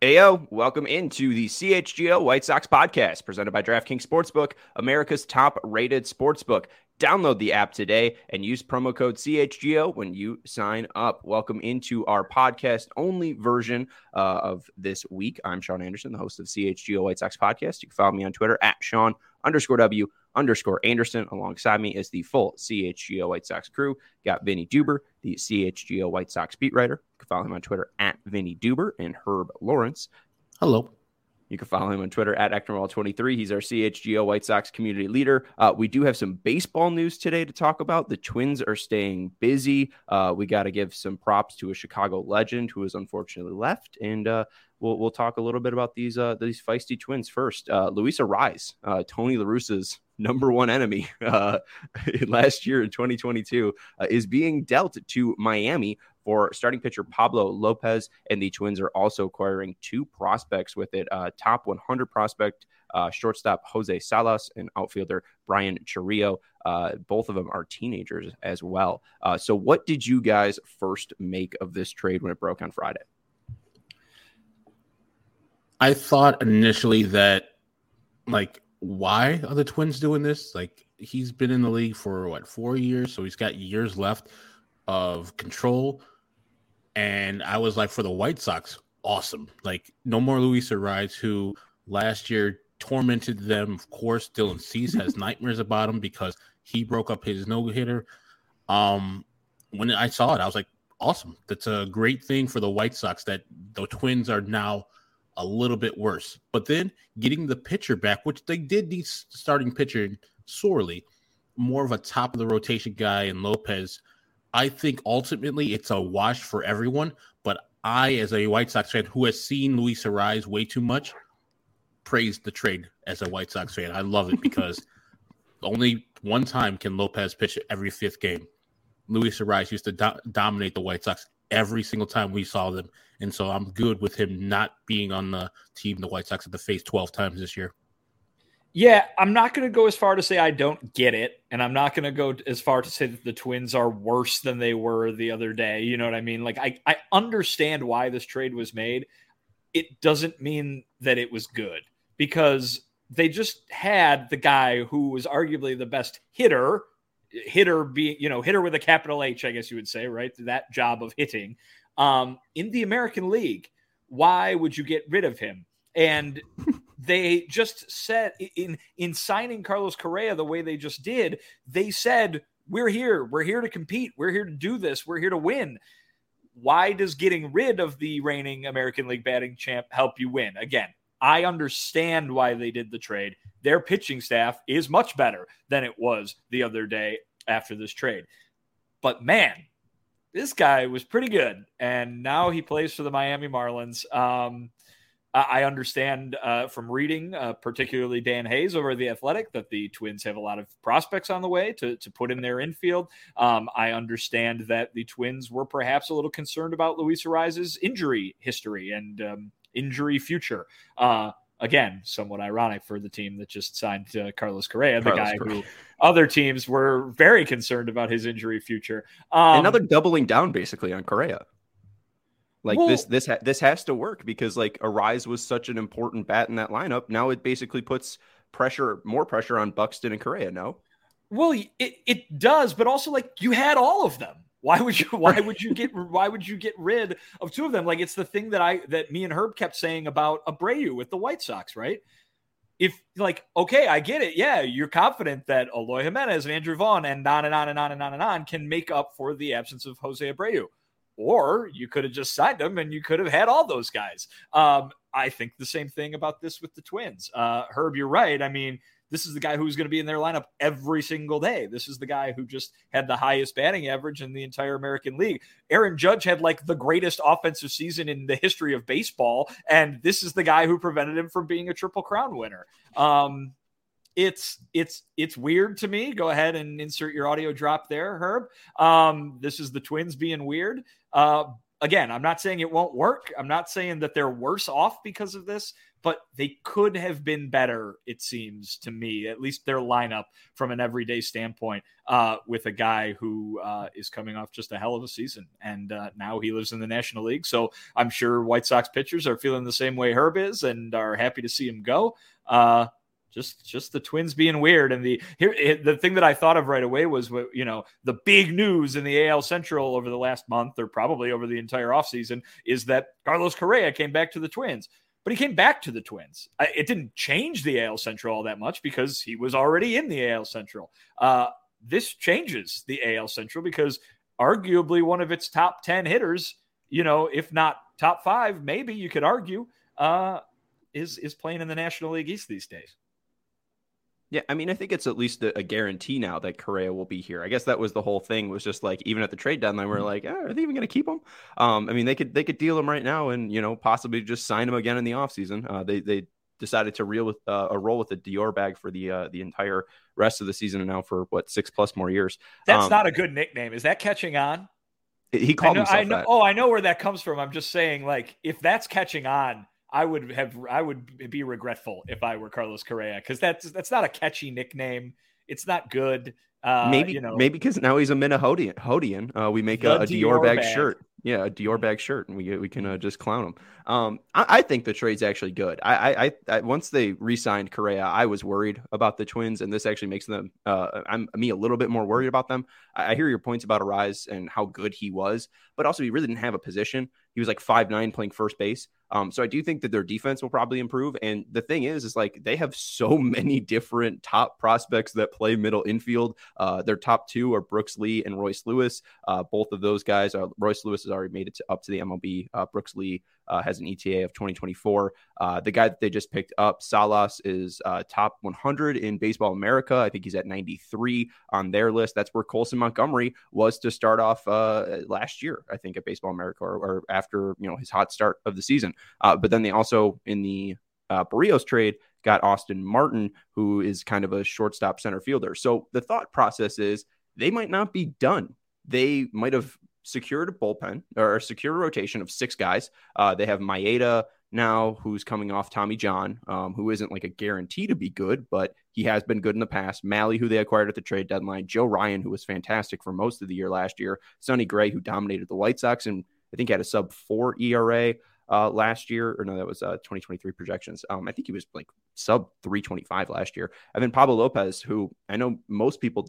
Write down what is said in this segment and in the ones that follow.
Ayo, welcome into the CHGO White Sox podcast presented by DraftKings Sportsbook, America's top-rated sportsbook. Download the app today and use promo code CHGO when you sign up. Welcome into our podcast-only version of this week. I'm Sean Anderson, the host of CHGO White Sox podcast. You can follow me on Twitter at Sean_W_Anderson. Alongside me is the full CHGO White Sox crew. Got Vinny Duber, the CHGO White Sox beat writer. You can follow him on Twitter at Vinny Duber, and Herb Lawrence. Hello. You can follow him on Twitter at Eknerwall23. He's our CHGO White Sox community leader. We do have some baseball news today to talk about. The Twins are staying busy. We got to give some props to a Chicago legend who has unfortunately left, and we'll talk a little bit about these feisty Twins first. Luis Arraez, Tony La Russa's number one enemy last year in 2022, is being dealt to Miami for starting pitcher Pablo Lopez, and the Twins are also acquiring two prospects with it. Top 100 prospect, shortstop Jose Salas, and outfielder Brian Chiriot. Both of them are teenagers as well. So what did you guys first make of this trade when it broke on Friday? I thought initially that, why are the Twins doing this? He's been in the league for, 4 years? So he's got years left of control. And I was like, for the White Sox, awesome. No more Luis Arraez, who last year tormented them. Of course, Dylan Cease has nightmares about him because he broke up his no-hitter. When I saw it, I was like, awesome. That's a great thing for the White Sox that the Twins are now a little bit worse. But then getting the pitcher back, which they did need starting pitcher sorely, more of a top-of-the-rotation guy in Lopez. I think ultimately it's a wash for everyone, but I, as a White Sox fan who has seen Luis Arraez way too much, praised the trade as a White Sox fan. I love it because only one time can Lopez pitch every fifth game. Luis Arraez used to dominate the White Sox every single time we saw them, and so I'm good with him not being on the team the White Sox have to face 12 times this year. Yeah, I'm not going to go as far to say I don't get it, and I'm not going to go as far to say that the Twins are worse than they were the other day. You know what I mean? I understand why this trade was made. It doesn't mean that it was good because they just had the guy who was arguably the best hitter being, hitter with a capital H, I guess you would say, right? That job of hitting in the American League. Why would you get rid of him? And they just said in signing Carlos Correa the way they just did, they said, we're here to compete. We're here to do this. We're here to win. Why does getting rid of the reigning American League batting champ help you win? Again, I understand why they did the trade. Their pitching staff is much better than it was the other day after this trade. But man, this guy was pretty good. And now he plays for the Miami Marlins. I understand from reading, particularly Dan Hayes over The Athletic, that the Twins have a lot of prospects on the way to put in their infield. I understand that the Twins were perhaps a little concerned about Luis Arraez's injury history and injury future. Again, somewhat ironic for the team that just signed Carlos Correa, who other teams were very concerned about his injury future. Another doubling down basically on Correa. This has to work because Arraez was such an important bat in that lineup. Now it basically puts more pressure on Buxton and Correa. No, well, it does, but also you had all of them. Why would you get rid of two of them? It's the thing that me and Herb kept saying about Abreu with the White Sox, right? If okay, I get it. Yeah, you're confident that Eloy Jimenez and Andrew Vaughn and on and on and on and on and on can make up for the absence of Jose Abreu. Or you could have just signed them and you could have had all those guys. I think the same thing about this with the Twins. Herb, you're right. I mean, this is the guy who's going to be in their lineup every single day. This is the guy who just had the highest batting average in the entire American League. Aaron Judge had the greatest offensive season in the history of baseball. And this is the guy who prevented him from being a Triple Crown winner. It's weird to me. Go ahead and insert your audio drop there, Herb. This is the Twins being weird. again, I'm not saying it won't work. I'm not saying that they're worse off because of this, but they could have been better, it seems to me, at least their lineup from an everyday standpoint, with a guy who is coming off just a hell of a season. And now he lives in the National League. So I'm sure White Sox pitchers are feeling the same way Herb is and are happy to see him go. Just the Twins being weird. And the thing that I thought of right away was, the big news in the AL Central over the last month, or probably over the entire offseason, is that Carlos Correa came back to the Twins. But he came back to the Twins. It didn't change the AL Central all that much because he was already in the AL Central. This changes the AL Central because arguably one of its top 10 hitters, if not top 5, maybe you could argue, is playing in the National League East these days. Yeah, I mean, I think it's at least a guarantee now that Correa will be here. I guess that was the whole thing, was just like, even at the trade deadline, we're like, are they even going to keep him? I mean, they could deal him right now and, possibly just sign him again in the offseason. They decided to roll with the Dior bag for the entire rest of the season and now for 6+ more years. That's not a good nickname. Is that catching on? He called himself that. Oh, I know where that comes from. I'm just saying, like, if that's catching on, I would be regretful if I were Carlos Correa, because that's not a catchy nickname. It's not good. Maybe because now he's a Minnehotian. We make a Dior bag shirt. Yeah, a Dior bag shirt, and we can just clown him. I think the trade's actually good. I once they re-signed Correa, I was worried about the Twins, and this actually makes them me a little bit more worried about them. I hear your points about Arise and how good he was, but also he really didn't have a position. He was like 5'9" playing first base. So I do think that their defense will probably improve. And the thing is like they have so many different top prospects that play middle infield. Their top 2 are Brooks Lee and Royce Lewis. Both of those guys, Royce Lewis has already made it up to the MLB. Brooks Lee has an ETA of 2024. The guy that they just picked up, Salas, is top 100 in Baseball America. I think he's at 93 on their list. That's where Colson Montgomery was to start off last year, I think, at Baseball America, or after his hot start of the season. But then they also, in the Barrios trade, got Austin Martin, who is kind of a shortstop center fielder. So the thought process is they might not be done. They might have secured a bullpen or secured a rotation of 6 guys. They have Maeda now, who's coming off Tommy John, who isn't like a guarantee to be good, but he has been good in the past. Malley, who they acquired at the trade deadline. Joe Ryan, who was fantastic for most of the year last year. Sonny Gray, who dominated the White Sox and I think had a sub-4 ERA last year. Or no, that was 2023 projections. I think he was like sub 325 last year. And then Pablo Lopez, who I know most people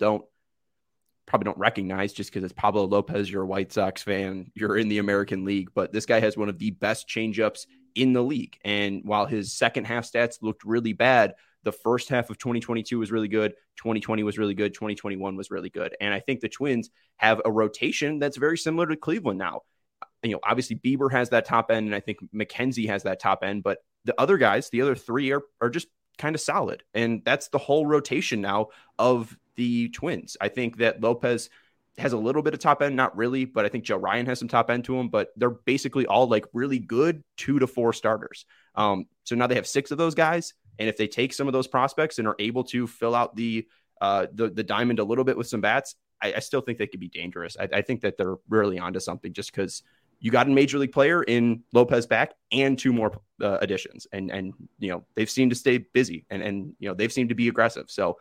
probably don't recognize just because it's Pablo Lopez, you're a White Sox fan, you're in the American League, but this guy has one of the best changeups in the league. And while his second half stats looked really bad, the first half of 2022 was really good. 2020 was really good. 2021 was really good. And I think the Twins have a rotation that's very similar to Cleveland now. Obviously Bieber has that top end, and I think McKenzie has that top end, but the other guys, the other 3 are just kind of solid. And that's the whole rotation now of the Twins. I think that Lopez has a little bit of top end, not really, but I think Joe Ryan has some top end to him, but they're basically all like really good 2 to 4 starters. So now they have 6 of those guys. And if they take some of those prospects and are able to fill out the diamond a little bit with some bats, I still think they could be dangerous. I think that they're really onto something, just because you got a major league player in Lopez back and 2 more additions. And they've seemed to stay busy and they've seemed to be aggressive. So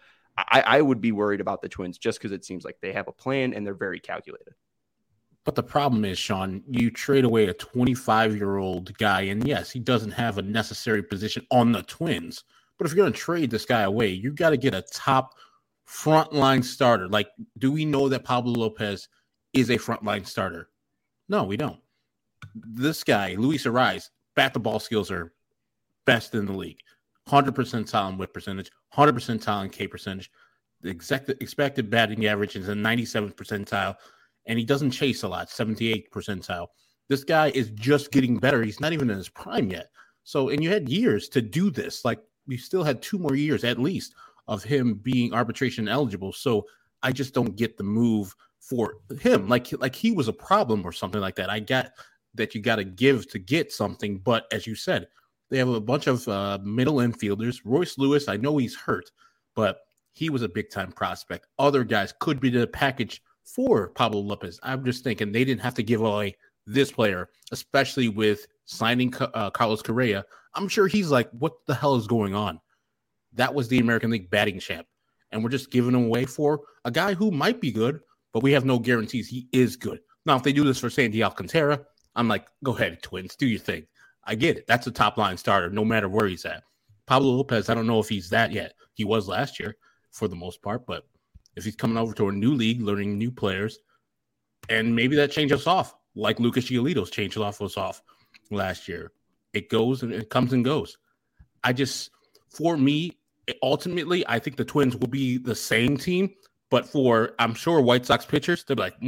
I would be worried about the Twins just because it seems like they have a plan and they're very calculated. But the problem is, Sean, you trade away a 25-year-old guy, and yes, he doesn't have a necessary position on the Twins. But if you're going to trade this guy away, you got to get a top frontline starter. Like, do we know that Pablo Lopez is a frontline starter? No, we don't. This guy, Luis Arraez, bat the ball skills are best in the league. 100 percentile in whip percentage, 100 percentile in K percentage. The expected batting average is a 97th percentile, and he doesn't chase a lot, 78th percentile. This guy is just getting better. He's not even in his prime yet. So, and you had years to do this. Like, we still had 2 more years at least of him being arbitration eligible. So I just don't get the move for him. Like he was a problem or something like that. I get that you got to give to get something. But as you said, they have a bunch of middle infielders. Royce Lewis, I know he's hurt, but he was a big-time prospect. Other guys could be the package for Pablo Lopez. I'm just thinking they didn't have to give away this player, especially with signing Carlos Correa, I'm sure he's like, what the hell is going on? That was the American League batting champ. And we're just giving him away for a guy who might be good, but we have no guarantees he is good. Now, if they do this for Sandy Alcantara, I'm like, go ahead, Twins, do your thing. I get it. That's a top-line starter, no matter where he's at. Pablo Lopez, I don't know if he's that yet. He was last year for the most part, but if he's coming over to a new league, learning new players, and maybe that changes us off, like Lucas Giolito's changed us off last year. It goes and it comes and goes. For me, ultimately, I think the Twins will be the same team, but I'm sure White Sox pitchers, they're like,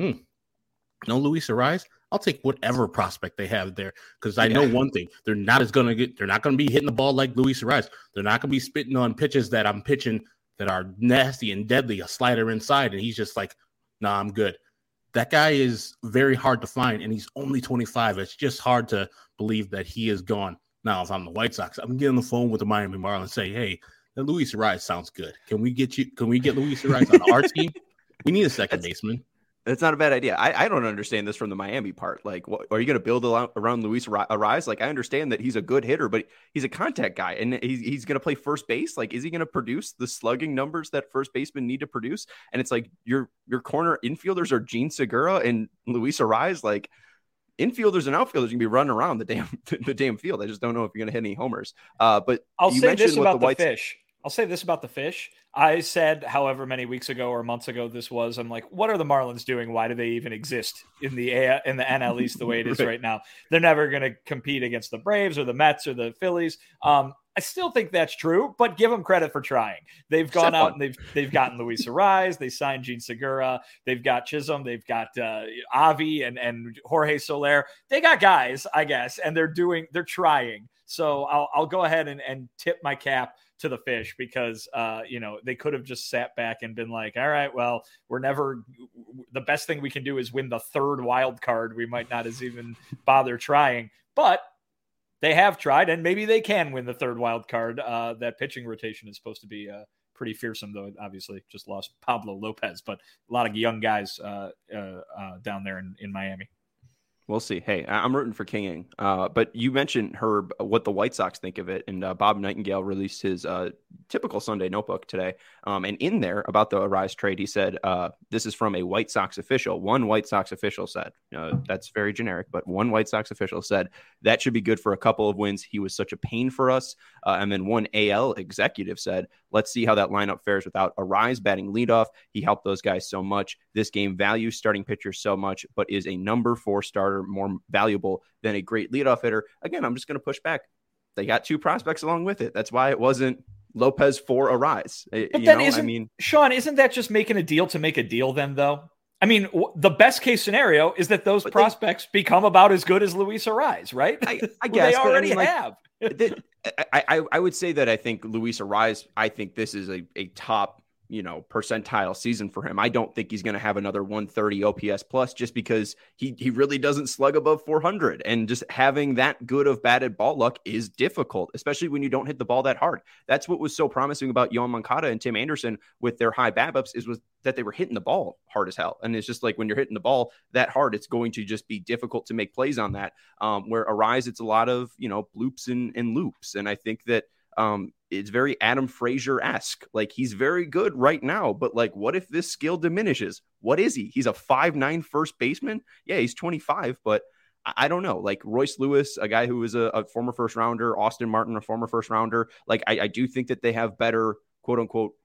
no Luis Arraez. I'll take whatever prospect they have there because I know one thing: they're not going to be hitting the ball like Luis Arraez. They're not going to be spitting on pitches that I'm pitching that are nasty and deadly, a slider inside, and he's just like, nah, I'm good. That guy is very hard to find, and he's only 25. It's just hard to believe that he is gone. Now, if I'm the White Sox, I'm getting on the phone with the Miami Marlins and say, hey, that Luis Arraez sounds good. Can we get Luis Arraez on our team? We need a second baseman. That's not a bad idea. I don't understand this from the Miami part. Like, are you going to build around Luis Arraez? Like, I understand that he's a good hitter, but he's a contact guy, and he's going to play first base. Like, is he going to produce the slugging numbers that first basemen need to produce? And it's like your corner infielders are Gene Segura and Luis Arraez. Like, infielders and outfielders can be running around the damn field. I just don't know if you're going to hit any homers. But I'll say this about the fish. I'll say this about the fish. I said however many weeks ago or months ago this was, I'm like, what are the Marlins doing? Why do they even exist in the NL East the way it is right now? They're never going to compete against the Braves or the Mets or the Phillies. I still think that's true, but give them credit for trying. They've gone out and they've gotten Luis Arraez. They signed Gene Segura. They've got Chisholm. They've got Avi and Jorge Soler. They got guys, I guess, and they're trying. So I'll go ahead and tip my cap to the fish because, they could have just sat back and been like, all right, well, the best thing we can do is win the third wild card. We might not as even bother trying, but they have tried and maybe they can win the third wild card. That pitching rotation is supposed to be pretty fearsome, though. Obviously just lost Pablo Lopez, but a lot of young guys down there in Miami. We'll see. Hey, I'm rooting for King. But you mentioned, Herb, what the White Sox think of it. And Bob Nightingale released his typical Sunday notebook today. And in there about the Arraez trade, he said, this is from a White Sox official. One White Sox official said, that's very generic, but one White Sox official said that should be good for a couple of wins. He was such a pain for us. And then one AL executive said, let's see how that lineup fares without Arraez batting leadoff. He helped those guys so much. This game values starting pitchers so much, but is a number 4 starter more valuable than a great leadoff hitter. Again, I'm just going to push back. They got 2 prospects along with it. That's why it wasn't Lopez for Arraez. But then Sean, isn't that just making a deal to make a deal then, though? I mean, the best case scenario is that those prospects become about as good as Luis Arraez, right? I guess they already have. I would say that I think Luis Arraez, I think this is a top, percentile season for him. I don't think he's going to have another 130 OPS plus just because he really doesn't slug above 400. And just having that good of batted ball luck is difficult, especially when you don't hit the ball that hard. That's what was so promising about Yoan Moncada and Tim Anderson with their high BABIPs was that they were hitting the ball hard as hell. And it's just like when you're hitting the ball that hard, it's going to just be difficult to make plays on that. Where Arraez, it's a lot of, bloops and loops. And I think that it's very Adam Frazier-esque. Like, he's very good right now, but like, what if this skill diminishes? What is he? He's a 5'9" first baseman. Yeah, he's 25, but I don't know. Like Royce Lewis, a guy who was a former first rounder, Austin Martin, a former first rounder. Like, I do think that they have better, quote unquote,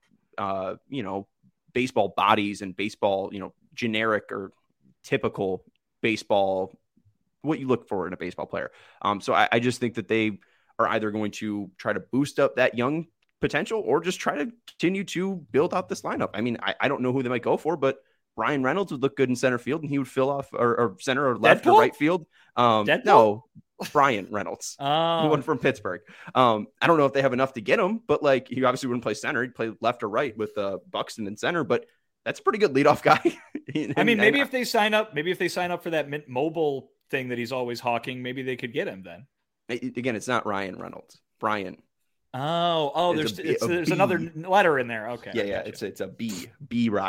baseball bodies and baseball, generic or typical baseball, what you look for in a baseball player. So I just think that they are either going to try to boost up that young potential or just try to continue to build out this lineup. I mean, I don't know who they might go for, but Brian Reynolds would look good in center field and he would fill off or center or left or right field. No, Brian Reynolds, the one from Pittsburgh. I don't know if they have enough to get him, but like, he obviously wouldn't play center. He'd play left or right with Buxton in center, but that's a pretty good leadoff guy. Maybe if they sign up for that Mint Mobile thing that he's always hawking, maybe they could get him then. Again, it's not Ryan Reynolds. Brian. There's another letter in there. Okay. Yeah. It's a B Ryan.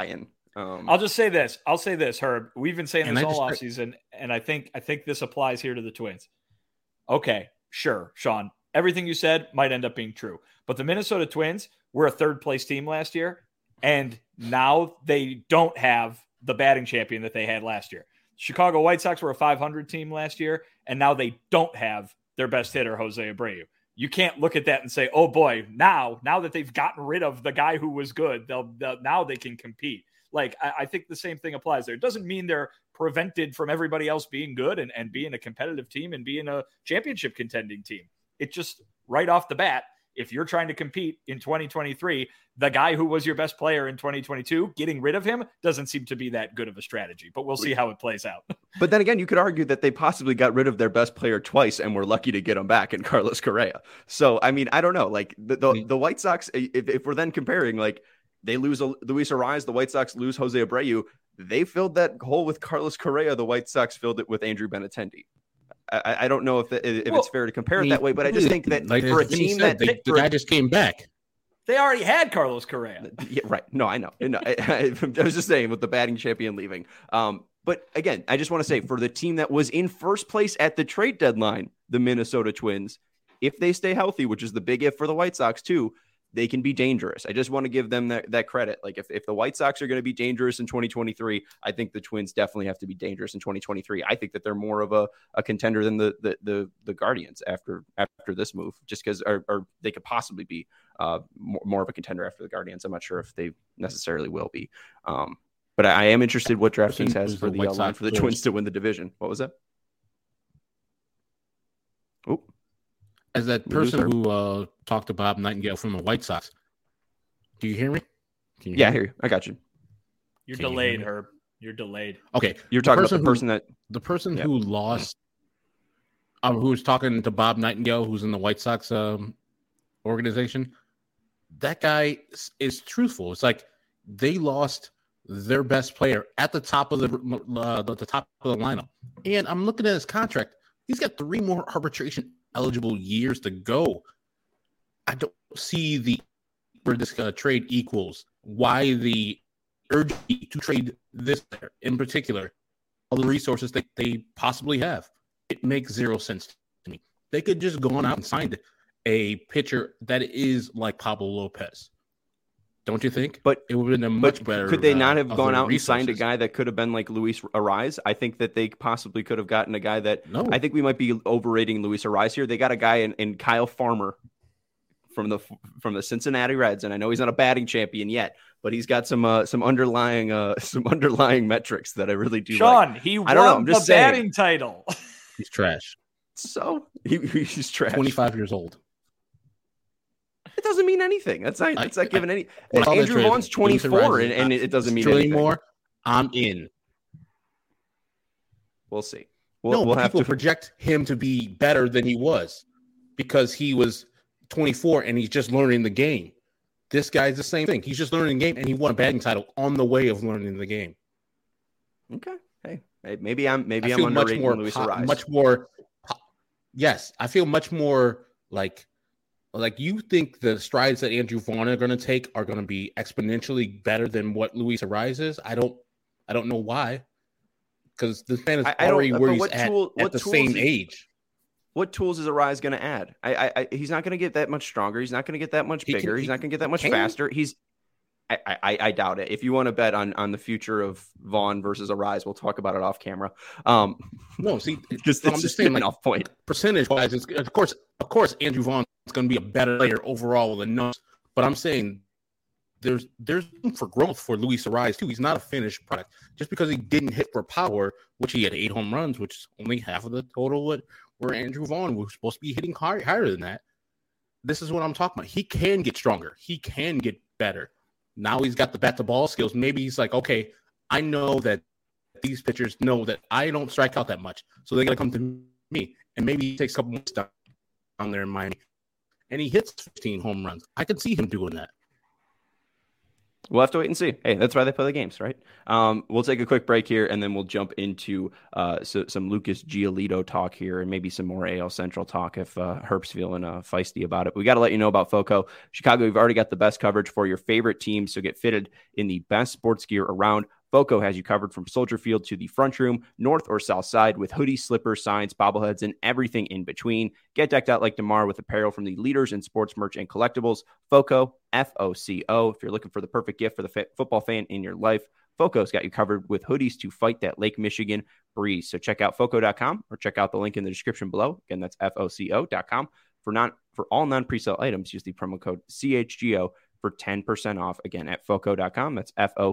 I'll just say this. I'll say this, Herb. We've been saying this all offseason, and I think this applies here to the Twins. Okay, sure, Sean. Everything you said might end up being true. But the Minnesota Twins were a third-place team last year, and now they don't have the batting champion that they had last year. Chicago White Sox were a 500 team last year, and now they don't have their best hitter, Jose Abreu. You can't look at that and say, oh, boy, now that they've gotten rid of the guy who was good, now they can compete. Like, I think the same thing applies there. It doesn't mean they're prevented from everybody else being good and being a competitive team and being a championship contending team. It just right off the bat, if you're trying to compete in 2023, the guy who was your best player in 2022, getting rid of him doesn't seem to be that good of a strategy, but we'll see how it plays out. But then again, you could argue that they possibly got rid of their best player twice and were lucky to get him back in Carlos Correa. So, I mean, I don't know. Like the White Sox, if we're then comparing, like they lose Luis Arraez, the White Sox lose Jose Abreu. They filled that hole with Carlos Correa. The White Sox filled it with Andrew Benintendi. I don't know if it's fair to compare it that way, but I just think that like, for a team the guy just came back. They already had Carlos Correa. Yeah, right. No, I know. No, I was just saying with the batting champion leaving. But again, I just want to say for the team that was in first place at the trade deadline, the Minnesota Twins, if they stay healthy, which is the big if for the White Sox too, they can be dangerous. I just want to give them that credit. Like if the White Sox are going to be dangerous in 2023, I think the Twins definitely have to be dangerous in 2023. I think that they're more of a contender than the Guardians after this move, just because or they could possibly be more of a contender after the Guardians. I'm not sure if they necessarily will be. But I am interested what DraftKings has for the line for the Twins to win the division. What was that? Oh. As that person who talked to Bob Nightingale from the White Sox, do you hear me? Yeah, I hear you. I got you. You're delayed, Herb. You're delayed. Okay, you're talking about the person who lost, who was talking to Bob Nightingale, who's in the White Sox organization. That guy is truthful. It's like they lost their best player at the top of the top of the lineup, and I'm looking at his contract. He's got 3 more arbitration eligible years to go. I don't see where this trade equals why the urgency to trade this player in particular, all the resources that they possibly have. It makes 0 sense to me. They could just go on out and signed a pitcher that is like Pablo Lopez. Don't you think? But it would have been a much better. Could they not have gone out and signed a guy that could have been like Luis Arraez? I think that they possibly could have gotten a guy that. No. I think we might be overrating Luis Arraez here. They got a guy in Kyle Farmer from the Cincinnati Reds, and I know he's not a batting champion yet, but he's got some underlying metrics that I really do. Sean, like. He won the batting title. He's trash. So he's trash. 25 years old. It doesn't mean anything. That's not giving any. Andrew Vaughn's 24, and it doesn't mean anything. More, I'm in. We'll see. We'll have to project him to be better than he was because he was 24 and he's just learning the game. This guy's the same thing. He's just learning the game, and he won a batting title on the way of learning the game. Okay. Hey, maybe I'm underrating Luis Arraez. Much more. Yes, I feel much more like you think the strides that Andrew Vaughn are going to take are going to be exponentially better than what Luis Arraez is. I don't know why, because this man is already where he's at the same age. What tools is Arraez going to add? He's not going to get that much stronger.'s not going to get that much bigger. He's not going to get that much faster. I doubt it. If you want to bet on the future of Vaughn versus Arraez, we'll talk about it off camera. No, see, I'm just saying, like, off point. Percentage-wise, of course, Andrew Vaughn is going to be a better player overall than us. But I'm saying there's room for growth for Luis Arraez too. He's not a finished product. Just because he didn't hit for power, which he had 8 home runs, which is only half of the total where Andrew Vaughn was supposed to be hitting higher than that. This is what I'm talking about. He can get stronger. He can get better. Now he's got the bat-to-ball skills. Maybe he's like, okay, I know that these pitchers know that I don't strike out that much, so they got to come to me. And maybe he takes a couple months down there in Miami, and he hits 15 home runs. I could see him doing that. We'll have to wait and see. Hey, that's why they play the games, right? We'll take a quick break here, and then we'll jump into some Lucas Giolito talk here, and maybe some more AL Central talk if Herp's feeling feisty about it. But we got to let you know about FOCO. Chicago, we've already got the best coverage for your favorite teams, so get fitted in the best sports gear around. FOCO has you covered from Soldier Field to the front room, north or south side, with hoodies, slippers, signs, bobbleheads, and everything in between. Get decked out like DeMar with apparel from the leaders in sports merch and collectibles. FOCO, FOCO. If you're looking for the perfect gift for the football fan in your life, FOCO's got you covered with hoodies to fight that Lake Michigan breeze. So check out FOCO.com or check out the link in the description below. Again, that's FOCO.com. For all non-presale items, use the promo code CHGO for 10% off. Again, at FOCO.com. That's FOCO.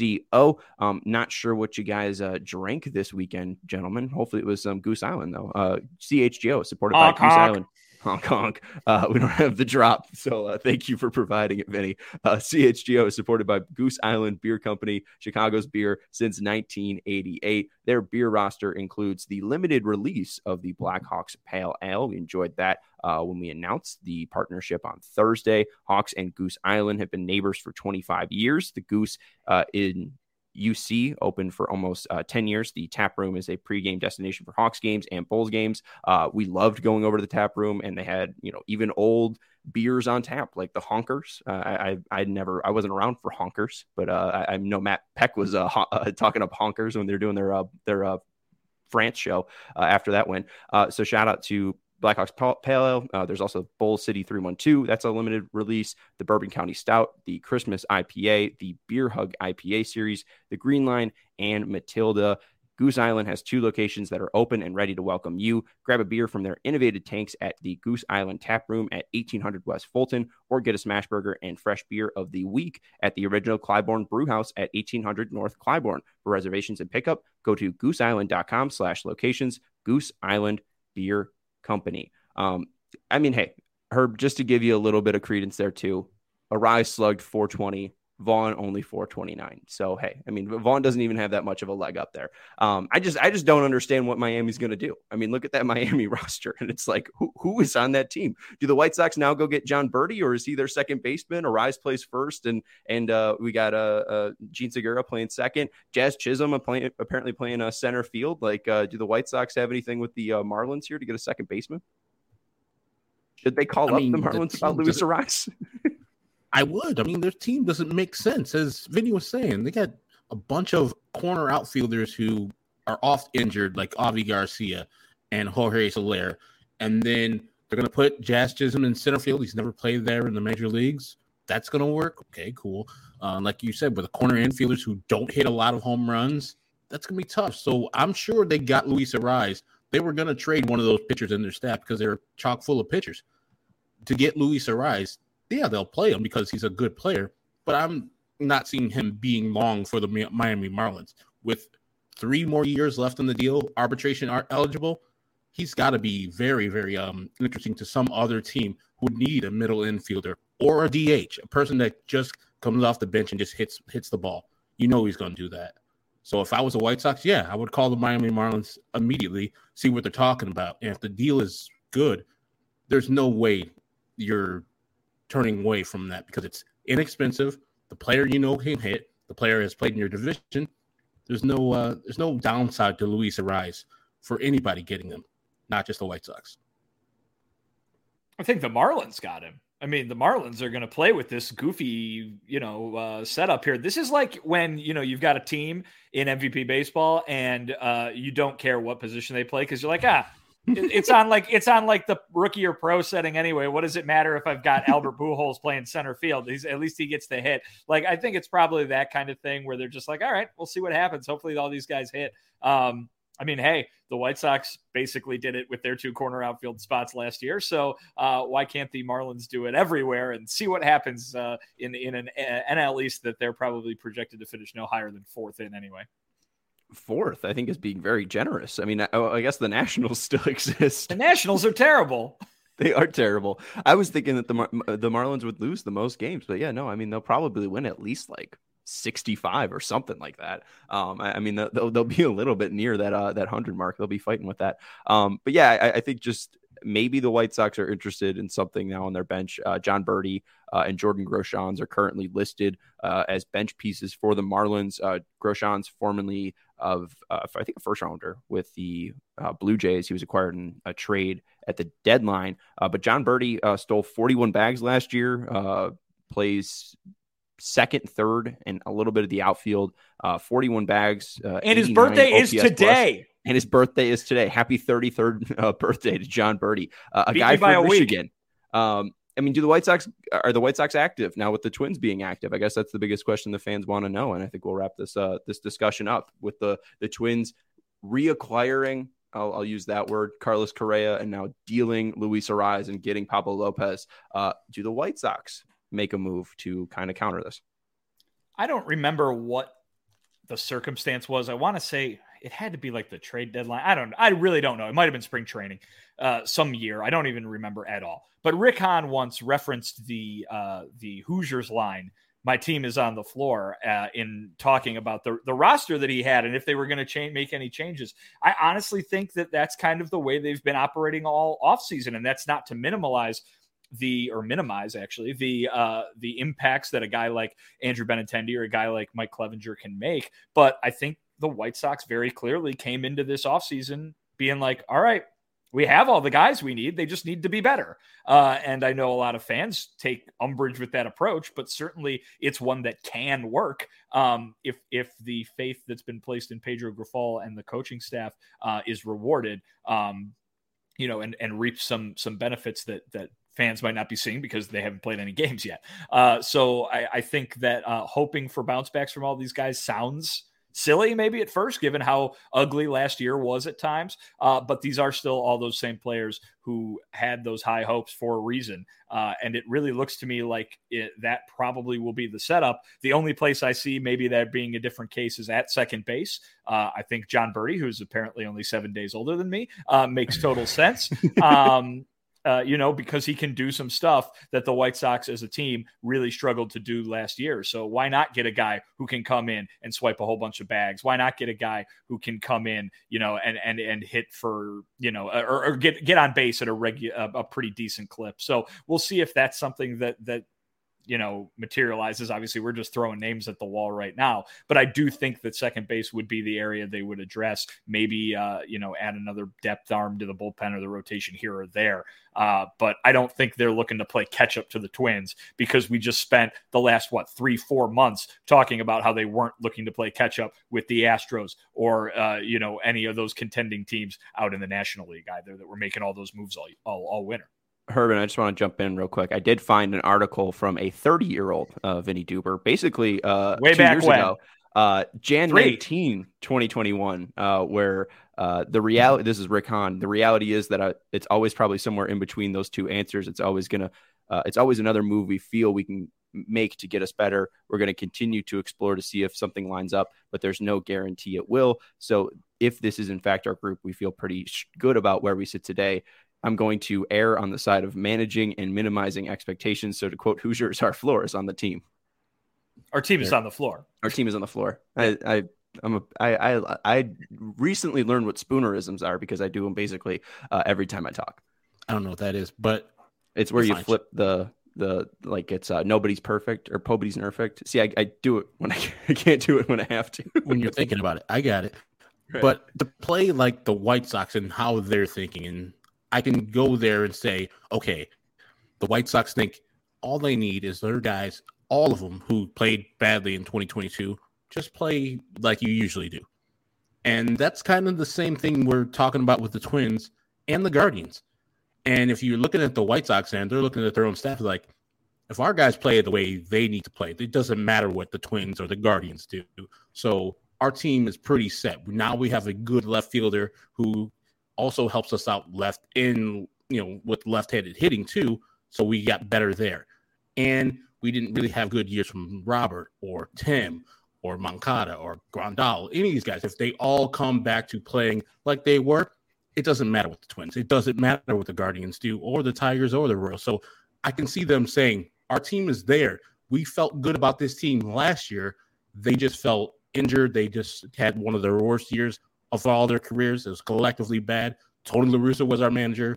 Not sure what you guys drank this weekend, gentlemen. Hopefully it was some Goose Island, though. CHGO supported by Goose Island. Honk, honk. We don't have the drop, so thank you for providing it, Vinny. CHGO is supported by Goose Island Beer Company, Chicago's beer since 1988. Their beer roster includes the limited release of the Blackhawks Pale Ale. We enjoyed that when we announced the partnership on Thursday. Hawks and Goose Island have been neighbors for 25 years. The Goose in UC open for almost 10 years. The tap room is a pregame destination for Hawks games and Bulls games. We loved going over to the tap room, and they had, even old beers on tap, like the Honkers. I wasn't around for Honkers, but I know Matt Peck was talking up Honkers when they're doing their France show after that win. So shout out to Blackhawks Pale Ale. There's also Bull City 312. That's a limited release. The Bourbon County Stout, the Christmas IPA, the Beer Hug IPA series, the Green Line, and Matilda. Goose Island has 2 locations that are open and ready to welcome you. Grab a beer from their innovative tanks at the Goose Island Tap Room at 1800 West Fulton, or get a smash burger and fresh beer of the week at the original Clybourne Brewhouse at 1800 North Clybourne. For reservations and pickup, go to gooseisland.com/locations. Goose Island Beer Company. Hey, Herb, just to give you a little bit of credence there too, Arise slugged 420, Vaughn only 429. So hey, Vaughn doesn't even have that much of a leg up there. I just don't understand what Miami's going to do. Look at that Miami roster, and it's like, who is on that team? Do the White Sox now go get John Birdie, or is he their second baseman? Arise plays first, and we got Gene Segura playing second. Jazz Chisholm apparently playing center field. Do the White Sox have anything with the Marlins here to get a second baseman? Should they call up the Marlins about Luis Arise? I would. Their team doesn't make sense. As Vinny was saying, they got a bunch of corner outfielders who are oft injured, like Avi Garcia and Jorge Soler. And then they're going to put Jazz Chisholm in center field. He's never played there in the major leagues. That's going to work. Okay, cool. Like you said, with the corner infielders who don't hit a lot of home runs, that's going to be tough. So I'm sure they got Luis Arise. They were going to trade one of those pitchers in their staff because they're chock full of pitchers. To get Luis Arise, yeah, they'll play him because he's a good player, but I'm not seeing him being long for the Miami Marlins. With 3 more years left in the deal, arbitration eligible, he's got to be very, very interesting to some other team who would need a middle infielder or a DH, a person that just comes off the bench and just hits the ball. He's going to do that. So if I was a White Sox, yeah, I would call the Miami Marlins immediately, see what they're talking about. And if the deal is good, there's no way you're turning away from that because it's inexpensive. The player can hit. The player has played in your division. There's no downside to Luis Arise for anybody getting them, not just the White Sox. I think the Marlins got him. The Marlins are going to play with this goofy, setup here. This is like when, you've got a team in MVP baseball and you don't care what position they play because you're like, it's on like the rookie or pro setting anyway. What does it matter if I've got Albert Pujols playing center field? At least he gets the hit. I think it's probably that kind of thing where they're just like, all right, we'll see what happens. Hopefully all these guys hit. Hey, the White Sox basically did it with their 2 corner outfield spots last year. So why can't the Marlins do it everywhere and see what happens in an NL East that they're probably projected to finish no higher than 4th in anyway? 4th, I think, is being very generous. I guess the Nationals still exist. The Nationals are terrible. They are terrible. I was thinking that the Marlins would lose the most games, but yeah, no, they'll probably win at least 65 or something like that. They'll be a little bit near that 100 mark. They'll be fighting with that. But yeah, I think just maybe the White Sox are interested in something now on their bench. John Birdie and Jordan Groshans are currently listed as bench pieces for the Marlins. Groshans, formerly of, I think, a first rounder with the Blue Jays. He was acquired in a trade at the deadline. But John Birdie stole 41 bags last year, plays second, third, and a little bit of the outfield. 41 bags. And his birthday is today. Plus. And his birthday is today. Happy 33rd birthday to John Birdie, a guy from Michigan. I mean, are the White Sox active now with the Twins being active? I guess that's the biggest question the fans want to know. And I think we'll wrap this discussion up with the Twins reacquiring, I'll use that word, Carlos Correa, and now dealing Luis Arraez and getting Pablo Lopez. Do the White Sox make a move to kind of counter this? I don't remember what the circumstance was. I want to say it had to be like the trade deadline. I really don't know. It might have been spring training some year. I don't even remember at all. But Rick Hahn once referenced the Hoosiers line, "My team is on the floor," in talking about the roster that he had and if they were going to make any changes. I honestly think that that's kind of the way they've been operating all offseason, and that's not to minimize the impacts that a guy like Andrew Benintendi or a guy like Mike Clevenger can make. But I think the White Sox very clearly came into this offseason being like, all right, we have all the guys we need. They just need to be better. And I know a lot of fans take umbrage with that approach, but certainly it's one that can work if the faith that's been placed in Pedro Grifol and the coaching staff is rewarded, and reaps some benefits that fans might not be seeing because they haven't played any games yet. So I think that hoping for bounce backs from all these guys sounds silly maybe at first, given how ugly last year was at times. But these are still all those same players who had those high hopes for a reason. And it really looks to me like that probably will be the setup. The only place I see maybe that being a different case is at second base. I think John Birdie, who's apparently only 7 days older than me, makes total sense. Because he can do some stuff that the White Sox as a team really struggled to do last year. So why not get a guy who can come in and swipe a whole bunch of bags? Why not get a guy who can come in, and hit for, or get on base at a pretty decent clip. So we'll see if that's something that materializes. Obviously, we're just throwing names at the wall right now, but I do think that second base would be the area they would address. Maybe, add another depth arm to the bullpen or the rotation here or there. But I don't think they're looking to play catch up to the Twins because we just spent the last, 3-4 months talking about how they weren't looking to play catch up with the Astros or, any of those contending teams out in the National League either that were making all those moves all winter. Herman, I just want to jump in real quick. I did find an article from a 30-year-old Vinny Duber, basically way 2 years ago, Jan 19, 2021, where the reality, this is Rick Hahn, the reality is that it's always probably somewhere in between those two answers. It's always another move we feel we can make to get us better. We're going to continue to explore to see if something lines up, but there's no guarantee it will. So if this is in fact our group, we feel pretty good about where we sit today. I'm going to err on the side of managing and minimizing expectations. So to quote Hoosiers, our floor is on the team. Our team is on the floor. Our team is on the floor. I recently learned what spoonerisms are because I do them basically every time I talk. I don't know what that is, but it's where you flip the it's nobody's perfect or nobody's perfect. See, I do it when I can't do it when I have to. When you're thinking about it, I got it. Right. But to play like the White Sox and how they're thinking, and I can go there and say, okay, the White Sox think all they need is their guys, all of them who played badly in 2022, just play like you usually do. And that's kind of the same thing we're talking about with the Twins and the Guardians. And if you're looking at the White Sox and they're looking at their own staff, like, if our guys play the way they need to play, it doesn't matter what the Twins or the Guardians do. So our team is pretty set. Now we have a good left fielder who also helps us out left in, with left-handed hitting too. So we got better there. And we didn't really have good years from Robert or Tim or Moncada or Grandal, any of these guys. If they all come back to playing like they were, it doesn't matter what the Twins, it doesn't matter what the Guardians do or the Tigers or the Royals. So I can see them saying, our team is there. We felt good about this team last year. They just felt injured. They just had one of their worst years of all their careers. It was collectively bad. Tony La Russa was our manager.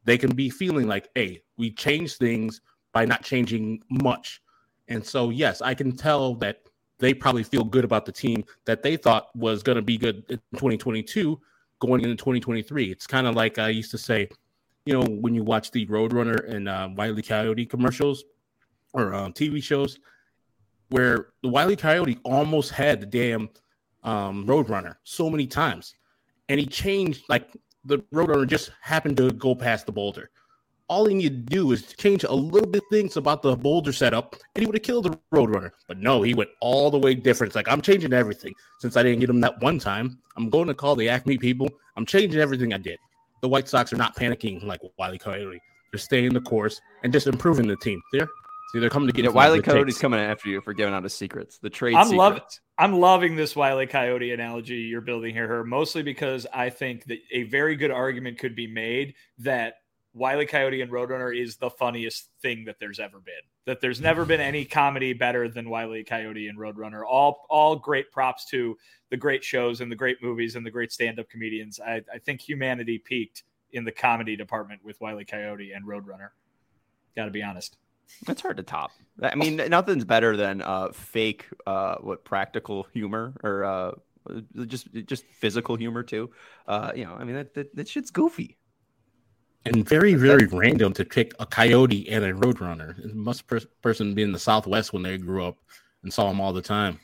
they can be feeling like, hey, we changed things by not changing much. And so, yes, I can tell that they probably feel good about the team that they thought was going to be good in 2022 going into 2023. It's kind of like I used to say, when you watch the Roadrunner and Wile E. Coyote commercials or TV shows, where the Wile E. Coyote almost had the damn Roadrunner so many times. And he changed, like the Roadrunner just happened to go past the boulder. All he needed to do is change a little bit things about the boulder setup, and he would have killed the Roadrunner. But no, he went all the way different. It's like, I'm changing everything. Since I didn't get him that one time, I'm going to call the Acme people. I'm changing everything I did. The White Sox are not panicking like Wile E. Coyote. They're staying the course and just improving the team. They're coming to get Wile E. Coyote's coming after you for giving out his secrets, the trade secrets. I'm loving this Wile E. Coyote analogy you're building here, mostly because I think that a very good argument could be made that Wile E. Coyote and Roadrunner is the funniest thing that there's ever been. That there's never been any comedy better than Wile E. Coyote and Roadrunner. All great props to the great shows and the great movies and the great stand-up comedians. I think humanity peaked in the comedy department with Wile E. Coyote and Roadrunner. Got to be honest. It's hard to top. I mean, nothing's better than fake, practical humor or just physical humor too. I mean, that shit's goofy. And very, very random to pick a coyote and a Roadrunner. It must person be in the Southwest when they grew up and saw them all the time.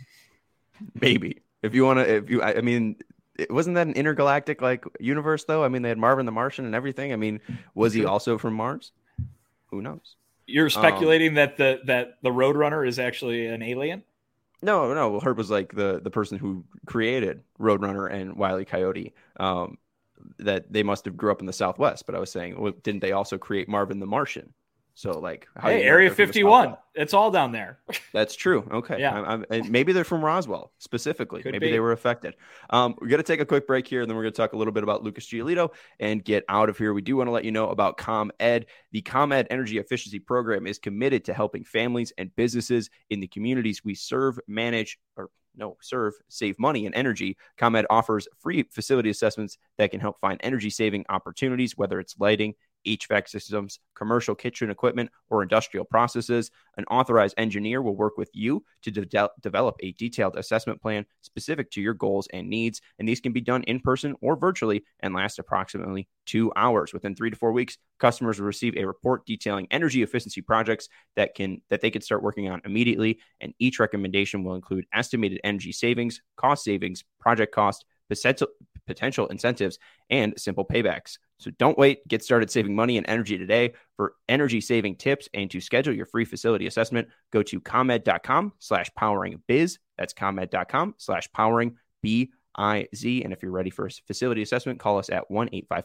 Maybe. I mean, wasn't that an intergalactic universe though? I mean, they had Marvin the Martian and everything. I mean, was he also from Mars? Who knows? You're speculating that the Roadrunner is actually an alien? No. Herb was like the person who created Roadrunner and Wile E. Coyote. That they must have grew up in the Southwest, but I was saying, well, didn't they also create Marvin the Martian? So Area 51, it's all down there. That's true. Okay. Yeah. Maybe they're from Roswell specifically. Maybe they were affected. We're going to take a quick break here, and then we're going to talk a little bit about Lucas Giolito and get out of here. We do want to let you know about ComEd. The ComEd Energy Efficiency Program is committed to helping families and businesses in the communities we serve, save money and energy. ComEd offers free facility assessments that can help find energy saving opportunities, whether it's lighting, HVAC systems, commercial kitchen equipment, or industrial processes. An authorized engineer will work with you to develop a detailed assessment plan specific to your goals and needs, and these can be done in person or virtually and last approximately 2 hours. Within 3 to 4 weeks, customers will receive a report detailing energy efficiency projects that they can start working on immediately, and each recommendation will include estimated energy savings, cost savings, project cost, potential incentives, and simple paybacks. So don't wait. Get started saving money and energy today. For energy saving tips and to schedule your free facility assessment, go to comed.com/poweringbiz. That's comed.com/poweringbiz. And if you're ready for a facility assessment, call us at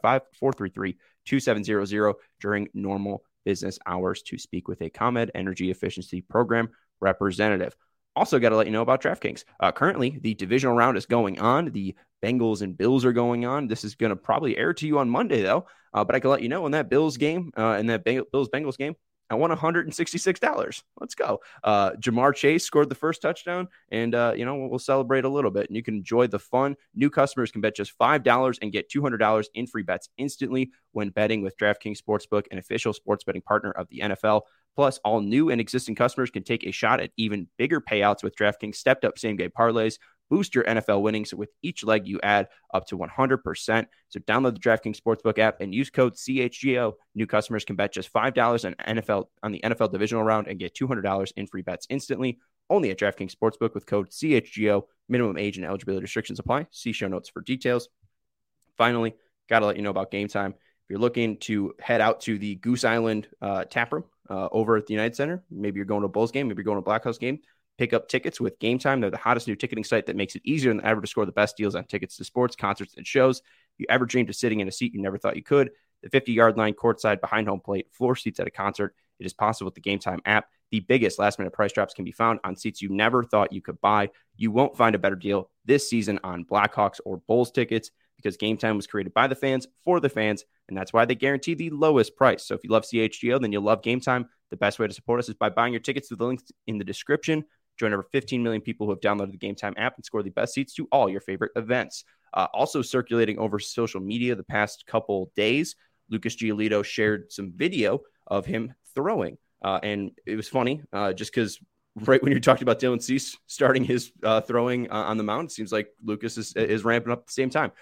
1-855-433-2700 during normal business hours to speak with a ComEd Energy Efficiency Program representative. Also got to let you know about DraftKings. Currently, the divisional round is going on. The Bengals and Bills are going on. This is going to probably air to you on Monday, though. But I can let you know in that Bills game, Bills-Bengals game, I won $166. Let's go. Jamar Chase scored the first touchdown, and, we'll celebrate a little bit. And you can enjoy the fun. New customers can bet just $5 and get $200 in free bets instantly when betting with DraftKings Sportsbook, an official sports betting partner of the NFL. Plus, all new and existing customers can take a shot at even bigger payouts with DraftKings stepped-up same-game parlays. Boost your NFL winnings with each leg you add up to 100%. So download the DraftKings Sportsbook app and use code CHGO. New customers can bet just $5 on the NFL divisional round and get $200 in free bets instantly. Only at DraftKings Sportsbook with code CHGO. Minimum age and eligibility restrictions apply. See show notes for details. Finally, got to let you know about Game Time. If you're looking to head out to the Goose Island tap room over at the United Center, maybe you're going to a Bulls game, maybe you're going to a Blackhawks game, pick up tickets with Game Time. They're the hottest new ticketing site that makes it easier than ever to score the best deals on tickets to sports, concerts, and shows. If you ever dreamed of sitting in a seat you never thought you could, the 50-yard line, courtside, behind home plate, floor seats at a concert, it is possible with the Game Time app. The biggest last-minute price drops can be found on seats you never thought you could buy. You won't find a better deal this season on Blackhawks or Bulls tickets because Game Time was created by the fans for the fans, and that's why they guarantee the lowest price. So if you love CHGO, then you'll love Game Time. The best way to support us is by buying your tickets through the links in the description. Join over 15 million people who have downloaded the Game Time app and score the best seats to all your favorite events. Also circulating over social media the past couple days Lucas Giolito shared some video of him throwing. And it was funny just because right when you're talking about Dylan Cease starting his throwing on the mound, it seems like Lucas is ramping up at the same time.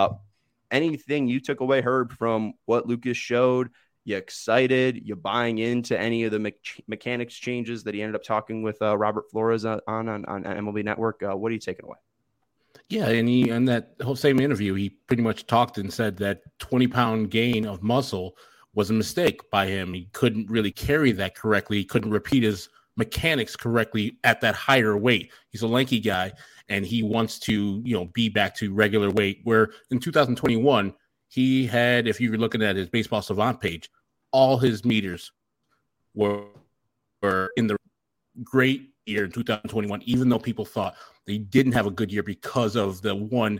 Anything you took away, Herb, from what Lucas showed? You excited? You buying into any of the mechanics changes that he ended up talking with Robert Flores on MLB Network? What are you taking away? Yeah, and he in that whole same interview, he pretty much talked and said that 20-pound gain of muscle was a mistake by him. He couldn't really carry that correctly. He couldn't repeat his mechanics correctly at that higher weight. He's a lanky guy, and he wants to, be back to regular weight. Where in 2021, he had, if you're looking at his Baseball Savant page, all his meters were in the great year in 2021, even though people thought they didn't have a good year because of the one,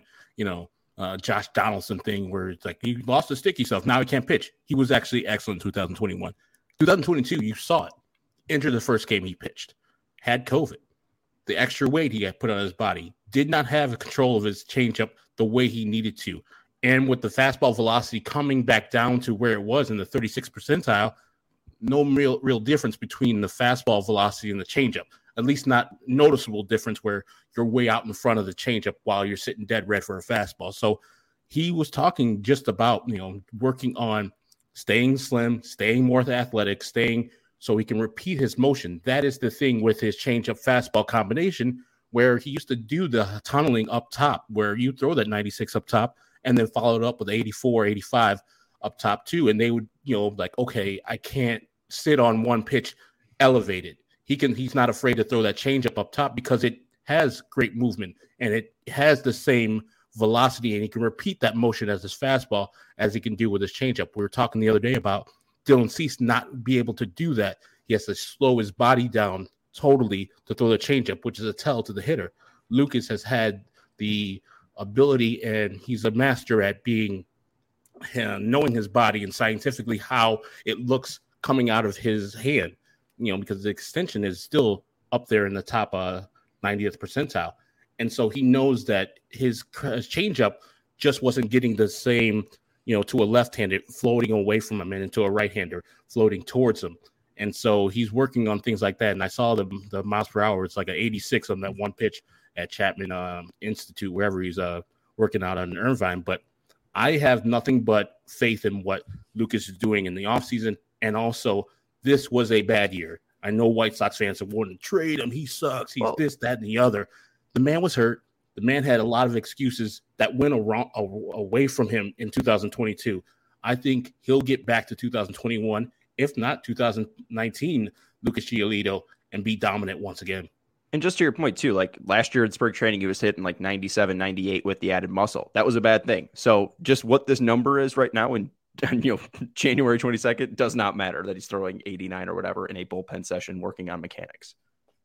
Josh Donaldson thing where it's like he lost the sticky stuff. Now he can't pitch. He was actually excellent in 2021. 2022, you saw it. Entered the first game he pitched, had COVID. The extra weight he had put on his body, did not have control of his changeup the way he needed to. And with the fastball velocity coming back down to where it was in the 36th percentile, no real difference between the fastball velocity and the changeup. At least not noticeable difference where you're way out in front of the changeup while you're sitting dead red for a fastball. So he was talking just about, working on staying slim, staying more athletic, staying so he can repeat his motion. That is the thing with his changeup fastball combination, where he used to do the tunneling up top, where you throw that 96 up top and then follow it up with 84, 85 up top too. And they would, okay, I can't sit on one pitch elevated. He's not afraid to throw that changeup up top because it has great movement and it has the same velocity, and he can repeat that motion as his fastball as he can do with his changeup. We were talking the other day about Dylan Cease not be able to do that. He has to slow his body down totally to throw the changeup, which is a tell to the hitter. Lucas has had the ability, and he's a master at knowing his body and scientifically how it looks coming out of his hand, because the extension is still up there in the top 90th percentile. And so he knows that his changeup just wasn't getting the same, to a left-handed floating away from him and into a right-hander floating towards him. And so he's working on things like that. And I saw the miles per hour. It's like an 86 on that one pitch at Chapman Institute, wherever he's working out on Irvine. But I have nothing but faith in what Lucas is doing in the offseason. And also, this was a bad year. I know White Sox fans have wanted to trade him. He sucks. He's this, that, and the other. The man was hurt. The man had a lot of excuses that went away from him in 2022. I think he'll get back to 2021, if not 2019, Lucas Giolito, and be dominant once again. And just to your point, too, like last year in spring training, he was hitting like 97, 98 with the added muscle. That was a bad thing. So just what this number is right now in January 22nd does not matter that he's throwing 89 or whatever in a bullpen session working on mechanics.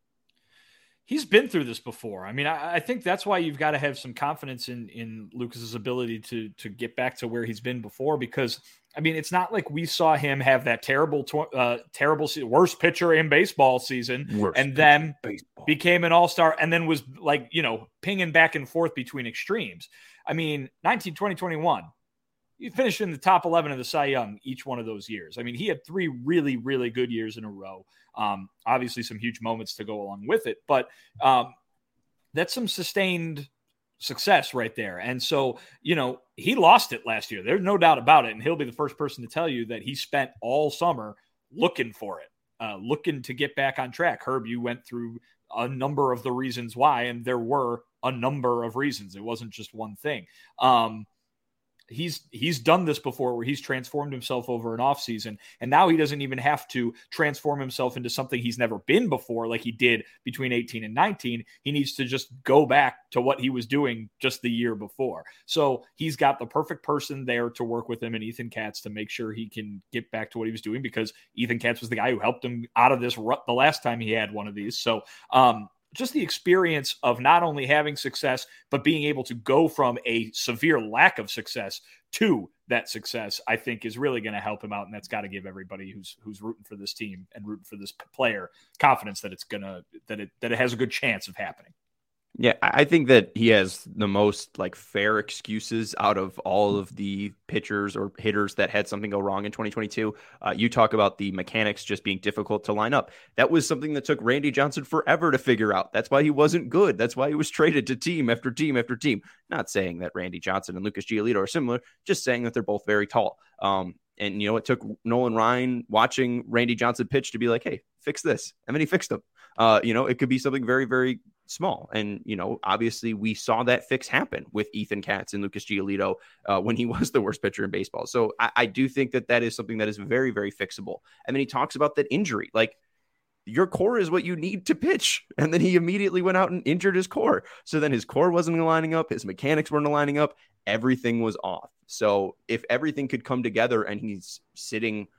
He's been through this before. I mean, I think that's why you've got to have some confidence in Lucas's ability to get back to where he's been before, because I mean, it's not like we saw him have that terrible worst pitcher in baseball season and then became an all-star and then was like, pinging back and forth between extremes. I mean, 19, 20, 21, he finished in the top 11 of the Cy Young each one of those years. I mean, he had 3 really, really good years in a row. Obviously some huge moments to go along with it, but that's some sustained success right there. And so, he lost it last year. There's no doubt about it. And he'll be the first person to tell you that he spent all summer looking for it, looking to get back on track. Herb, you went through a number of the reasons why, and there were a number of reasons. It wasn't just one thing. He's done this before where he's transformed himself over an offseason, and now he doesn't even have to transform himself into something he's never been before like he did between 18 and 19. He needs to just go back to what he was doing just the year before. So he's got the perfect person there to work with him and Ethan Katz to make sure he can get back to what he was doing, because Ethan Katz was the guy who helped him out of this rut the last time he had one of these. So, just the experience of not only having success, but being able to go from a severe lack of success to that success, I think is really going to help him out. And that's got to give everybody who's rooting for this team and rooting for this player confidence that it's going to, that it has a good chance of happening. Yeah, I think that he has the most like fair excuses out of all of the pitchers or hitters that had something go wrong in 2022. You talk about the mechanics just being difficult to line up. That was something that took Randy Johnson forever to figure out. That's why he wasn't good. That's why he was traded to team after team after team. Not saying that Randy Johnson and Lucas Giolito are similar, just saying that they're both very tall. And, it took Nolan Ryan watching Randy Johnson pitch to be like, hey, fix this. And then he fixed them. It could be something very, very small. And, obviously we saw that fix happen with Ethan Katz and Lucas Giolito when he was the worst pitcher in baseball. So I do think that is something that is very, very fixable. And then he talks about that injury. Like, your core is what you need to pitch. And then he immediately went out and injured his core. So then his core wasn't lining up. His mechanics weren't lining up. Everything was off. So if everything could come together and he's sitting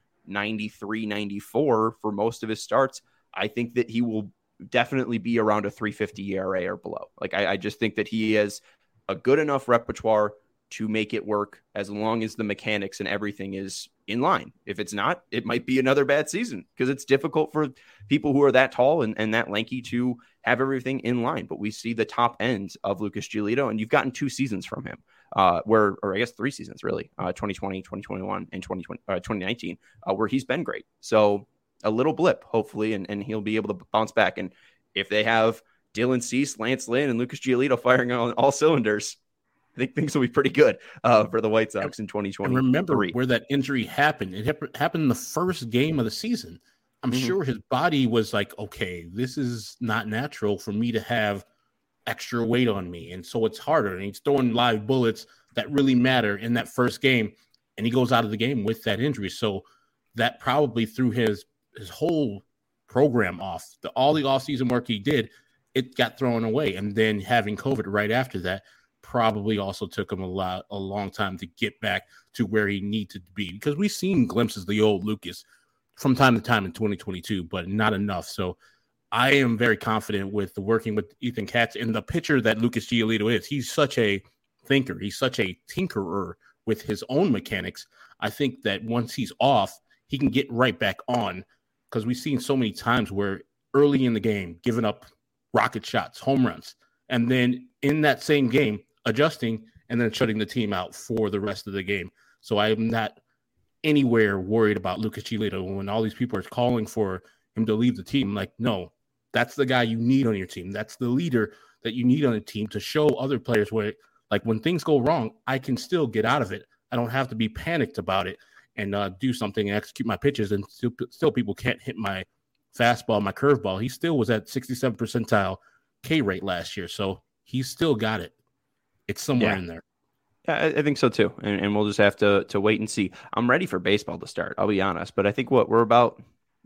93, 94 for most of his starts, I think that he will definitely be around a 3.50 ERA or below. Like, I just think that he has a good enough repertoire to make it work as long as the mechanics and everything is in line. If it's not, it might be another bad season because it's difficult for people who are that tall and that lanky to have everything in line. But we see the top ends of Lucas Giolito, and you've gotten 2 seasons from him, or I guess 3 seasons really, 2020, 2021, and 2019, where he's been great. So a little blip, hopefully, and he'll be able to bounce back. And if they have Dylan Cease, Lance Lynn, and Lucas Giolito firing on all cylinders, I think things will be pretty good for the White Sox in 2020. And remember where that injury happened. It happened in the first game of the season. I'm sure his body was like, okay, this is not natural for me to have extra weight on me. And so it's harder. And he's throwing live bullets that really matter in that first game. And he goes out of the game with that injury. So that probably threw his whole program off. All the offseason work he did, it got thrown away. And then having COVID right after that probably also took him a long time to get back to where he needed to be, because we've seen glimpses of the old Lucas from time to time in 2022, but not enough. So I am very confident with the working with Ethan Katz and the pitcher that Lucas Giolito is. He's such a thinker. He's such a tinkerer with his own mechanics. I think that once he's off, he can get right back on, because we've seen so many times where early in the game, giving up rocket shots, home runs, and then in that same game, adjusting and then shutting the team out for the rest of the game. So I am not anywhere worried about Lucas Giolito when all these people are calling for him to leave the team. Like, no, that's the guy you need on your team. That's the leader that you need on a team to show other players where, like, when things go wrong, I can still get out of it. I don't have to be panicked about it and do something and execute my pitches. And still people can't hit my fastball, my curveball. He still was at 67th percentile K rate last year. So he's still got it. It's somewhere in there. Yeah, I think so too. And we'll just have to wait and see. I'm ready for baseball to start, I'll be honest. But I think we're about,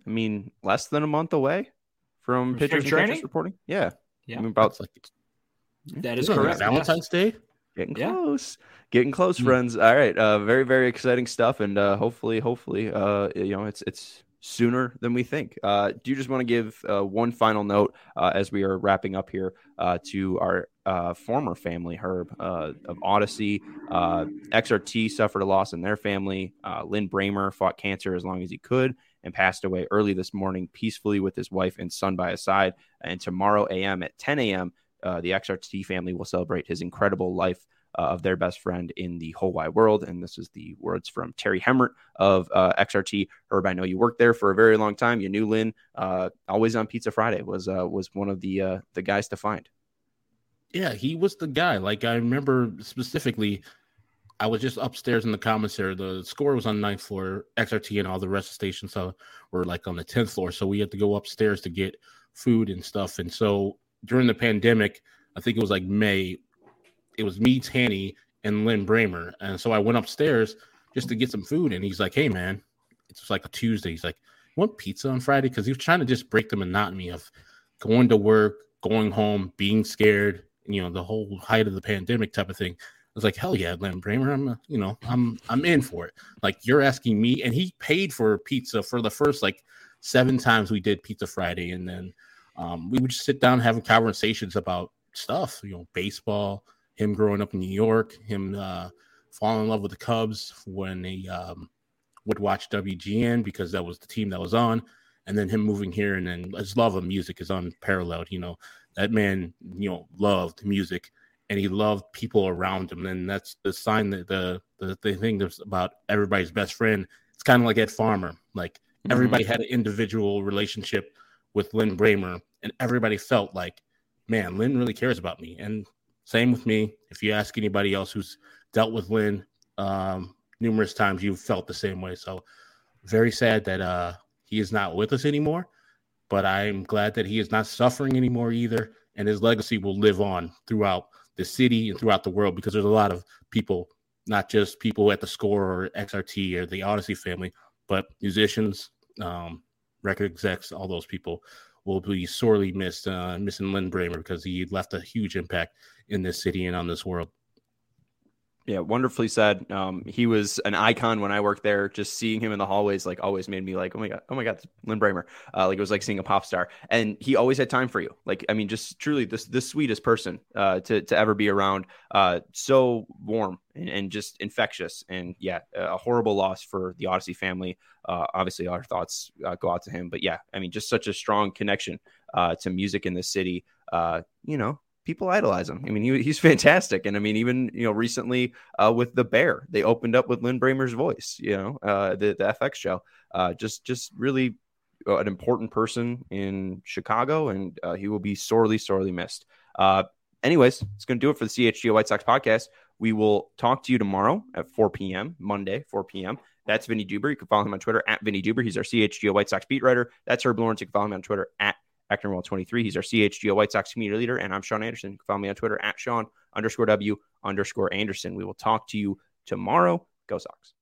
less than a month away from pitchers and catchers reporting. Yeah. About that is correct. Valentine's Day? Getting close. Getting close, friends. All right. Very, very exciting stuff. And hopefully, it's sooner than we think. Do you just want to give one final note as we are wrapping up here to our former family, Herb, of Odyssey? XRT suffered a loss in their family. Lynn Bramer fought cancer as long as he could and passed away early this morning peacefully with his wife and son by his side. And tomorrow a.m. at 10 a.m., the XRT family will celebrate his incredible life of their best friend in the whole wide world. And this is the words from Terry Hemmert of XRT. Herb, I know you worked there for a very long time. You knew Lynn. Always on Pizza Friday was one of the guys to find. Yeah, he was the guy. Like, I remember specifically, I was just upstairs in the commissary. The score was on the 9th floor. XRT and all the rest of the stations were like on the 10th floor. So we had to go upstairs to get food and stuff. And so during the pandemic, I think it was like May, it was me, Tanny, and Lynn Bramer. And so I went upstairs just to get some food. And he's like, hey, man, it's like a Tuesday. He's like, you want pizza on Friday? Because he was trying to just break the monotony of going to work, going home, being scared, the whole height of the pandemic type of thing. I was like, hell yeah, Lynn Bramer, I'm in for it. Like, you're asking me. And he paid for pizza for the first 7 times we did Pizza Friday. And then we would just sit down having conversations about stuff, baseball, him growing up in New York, him falling in love with the Cubs when he would watch WGN because that was the team that was on, and then him moving here, and then his love of music is unparalleled. That man, loved music, and he loved people around him. And that's the sign that the thing that's about everybody's best friend. It's kind of like Ed Farmer. Like everybody had an individual relationship with Lin Bramer, and everybody felt like, man, Lin really cares about me. And same with me. If you ask anybody else who's dealt with Lin numerous times, you've felt the same way. So very sad that he is not with us anymore, but I'm glad that he is not suffering anymore either. And his legacy will live on throughout the city and throughout the world, because there's a lot of people, not just people at the Score or XRT or the Odyssey family, but musicians, record execs, all those people will be sorely missing Lin Bramer, because he left a huge impact in this city and on this world. Yeah, wonderfully said. He was an icon when I worked there. Just seeing him in the hallways, like, always made me like, oh my god, Lin Bramer. Like, it was like seeing a pop star. And he always had time for you. Like, I mean, just truly the sweetest person to ever be around. So warm and just infectious. And yeah, a horrible loss for the Odyssey family. Obviously, our thoughts go out to him. But yeah, I mean, just such a strong connection to music in this city. People idolize him. I mean, he's fantastic. And I mean, even, recently with The Bear, they opened up with Lin Bramer's voice, the FX show, just really an important person in Chicago, and he will be sorely, sorely missed. Anyways, it's going to do it for the CHGO White Sox podcast. We will talk to you tomorrow at 4 p.m., Monday, 4 p.m. That's Vinny Duber. You can follow him on Twitter at Vinny Duber. He's our CHGO White Sox beat writer. That's Herb Lawrence. You can follow him on Twitter at Acton23. He's our CHGO White Sox community leader, and I'm Sean Anderson. You can follow me on Twitter at Sean_W_Anderson. We will talk to you tomorrow. Go Sox.